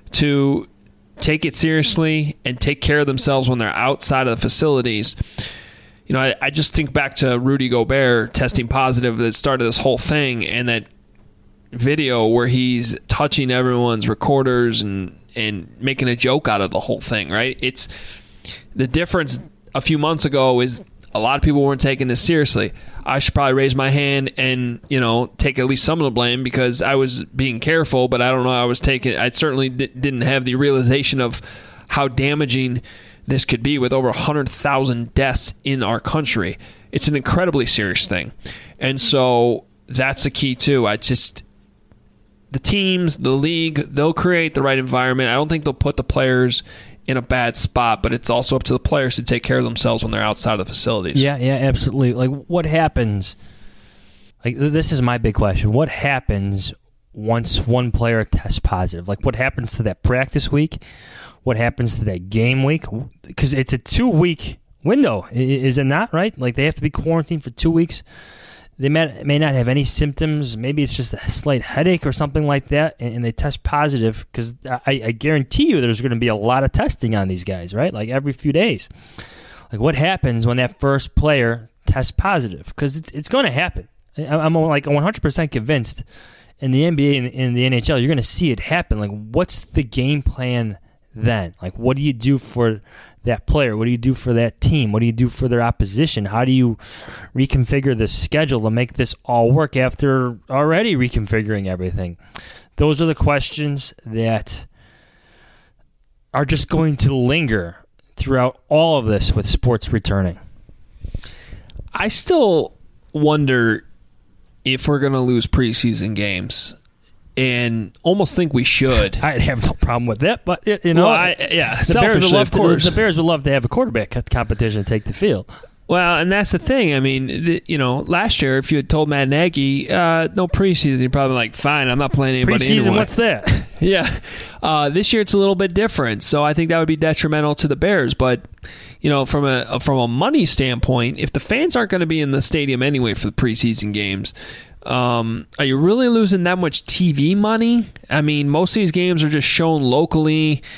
to take it seriously and take care of themselves when they're outside of the facilities. You know, I, I just think back to Rudy Gobert testing positive that started this whole thing, and that video where he's touching everyone's recorders and, and making a joke out of the whole thing, right? It's the difference a few months ago is a lot of people weren't taking this seriously. I should probably raise my hand and, you know, take at least some of the blame because I was being careful, but I don't know, I was taking, I certainly d- didn't have the realization of how damaging this could be with over one hundred thousand deaths in our country. It's an incredibly serious thing. And so that's the key, too. I just, the teams, the league, they'll create the right environment. I don't think they'll put the players in a bad spot, but it's also up to the players to take care of themselves when they're outside of the facilities. Yeah, yeah, absolutely. Like, what happens, like, this is my big question. What happens once one player tests positive? Like, what happens to that practice week? What happens to that game week? Because it's a two-week window, is it not, right? Like, they have to be quarantined for two weeks. They may, may not have any symptoms. Maybe it's just a slight headache or something like that, and, and they test positive because I, I guarantee you there's going to be a lot of testing on these guys, right? Like, every few days. Like, what happens when that first player tests positive? Because it's, it's going to happen. I'm like one hundred percent convinced in the N B A and in the N H L, you're going to see it happen. Like, what's the game plan then? Like, what do you do for that player? What do you do for that team? What do you do for their opposition? How do you reconfigure the schedule to make this all work after already reconfiguring everything? Those are the questions that are just going to linger throughout all of this with sports returning. I still wonder if we're going to lose preseason games. And almost think we should. I'd have no problem with that, but you know, well, I, yeah, the Bears would love of course. To, the Bears would love to have a quarterback competition to take the field. Well, and that's the thing. I mean, the, you know, last year if you had told Matt Nagy uh, no preseason, you're probably like, fine, I'm not playing anybody. Preseason, anyway. What's that? yeah, uh, this year it's a little bit different, so I think that would be detrimental to the Bears. But you know, from a from a money standpoint, if the fans aren't going to be in the stadium anyway for the preseason games. Um, are you really losing that much T V money? I mean, most of these games are just shown locally.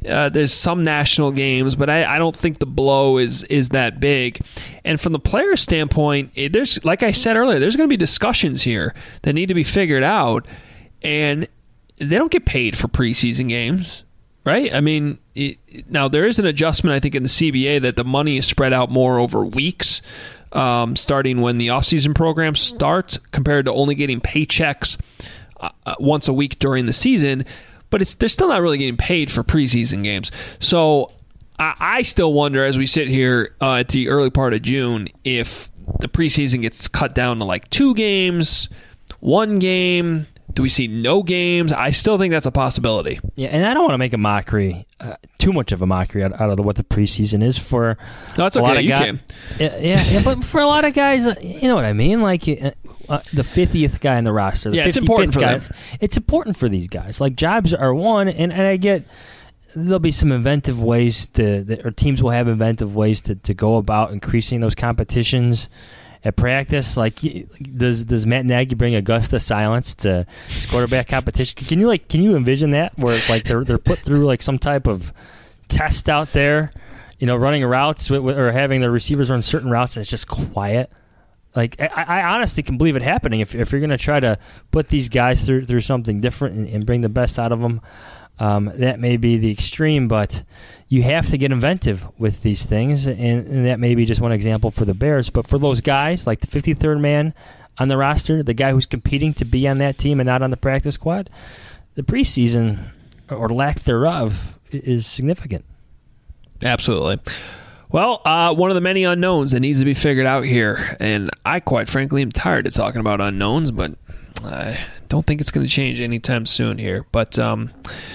Uh, there's some national games, but I, I don't think the blow is is that big. And from the player standpoint, it, there's like I said earlier, there's going to be discussions here that need to be figured out, and they don't get paid for preseason games, right? I mean, it, now there is an adjustment, I think, in the C B A that the money is spread out more over weeks, um, starting when the offseason programs start, compared to only getting paychecks uh, once a week during the season. But it's they're still not really getting paid for preseason games. So I, I still wonder, as we sit here uh, at the early part of June, if the preseason gets cut down to like two games, one game. Do we see no games? I still think that's a possibility. Yeah, and I don't want to make a mockery, uh, too much of a mockery out, out of what the preseason is for. No, it's a okay. lot of you guys. can. Yeah, yeah, yeah, but for a lot of guys, uh, you know what I mean? Like uh, uh, the fiftieth guy in the roster. The yeah, it's important for guy, them. It's important for these guys. Like, jobs are one, and, and I get there'll be some inventive ways to, or teams will have inventive ways to, to go about increasing those competitions at practice. Like, does does Matt Nagy bring Augusta Silence to his quarterback competition? Can you like can you envision that, where like they're they're put through like some type of test out there, you know, running routes with, or having the receivers run certain routes and it's just quiet? Like, I, I honestly can believe it happening if if you're going to try to put these guys through through something different and, and bring the best out of them. Um, that may be the extreme, but you have to get inventive with these things, and, and that may be just one example for the Bears. But for those guys, like the fifty-third man on the roster, the guy who's competing to be on that team and not on the practice squad, the preseason, or lack thereof, is significant. Absolutely. Well, uh, one of the many unknowns that needs to be figured out here, and I quite frankly am tired of talking about unknowns, but I don't think it's going to change anytime soon here. But um,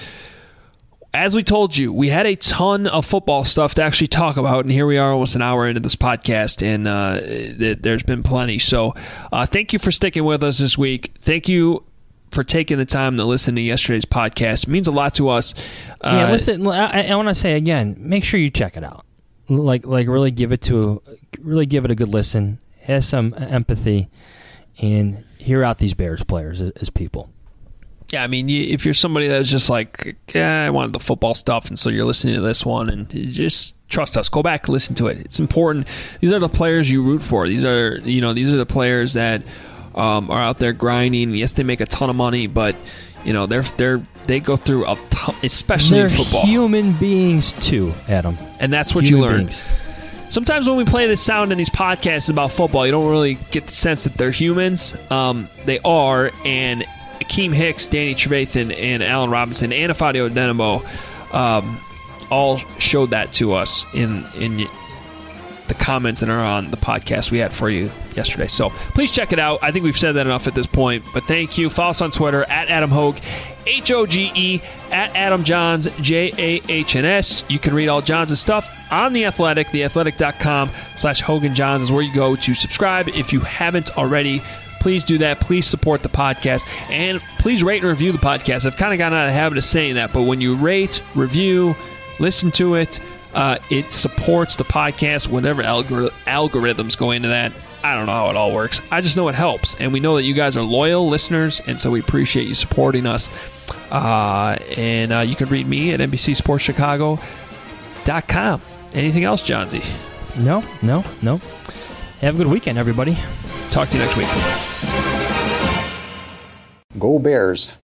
as we told you, we had a ton of football stuff to actually talk about, and here we are almost an hour into this podcast, and uh, th- there's been plenty. So uh, thank you for sticking with us this week. Thank you for taking the time to listen to yesterday's podcast. It means a lot to us. Uh, yeah, listen, I, I want to say again, make sure you check it out. Like, like really give it to, really give it a good listen. Have some empathy, and hear out these Bears players as, as people. Yeah, I mean, if you're somebody that's just like, yeah, I wanted the football stuff, and so you're listening to this one, and just trust us. Go back and listen to it. It's important. These are the players you root for. These are, you know, these are the players that um, are out there grinding. Yes, they make a ton of money, but you know, they're they're they go through a ton, especially they're in football. Human beings too, Adam, and that's what human you learn. Beings. Sometimes when we play this sound in these podcasts about football, you don't really get the sense that they're humans. Um, they are, and Akeem Hicks, Danny Trevathan, and Allen Robinson, and Afadio Odenigbo um, all showed that to us in in the comments that are on the podcast we had for you yesterday. So please check it out. I think we've said that enough at this point, but thank you. Follow us on Twitter at Adam Hoge, H O G E, at Adam Johns, J A H N S. You can read all Johns' stuff on The Athletic. theathletic.com slash Hogan Johns is where you go to subscribe. If you haven't already, please do that. Please support the podcast, and please rate and review the podcast. I've kind of gotten out of the habit of saying that, but when you rate, review, listen to it, uh, it supports the podcast. Whatever algor- algorithms go into that, I don't know how it all works. I just know it helps, and we know that you guys are loyal listeners, and so we appreciate you supporting us. Uh, and uh, you can read me at N B C Sports Chicago dot com. Anything else, Johnsy? No, no, no. Have a good weekend, everybody. Talk to you next week. Go Bears.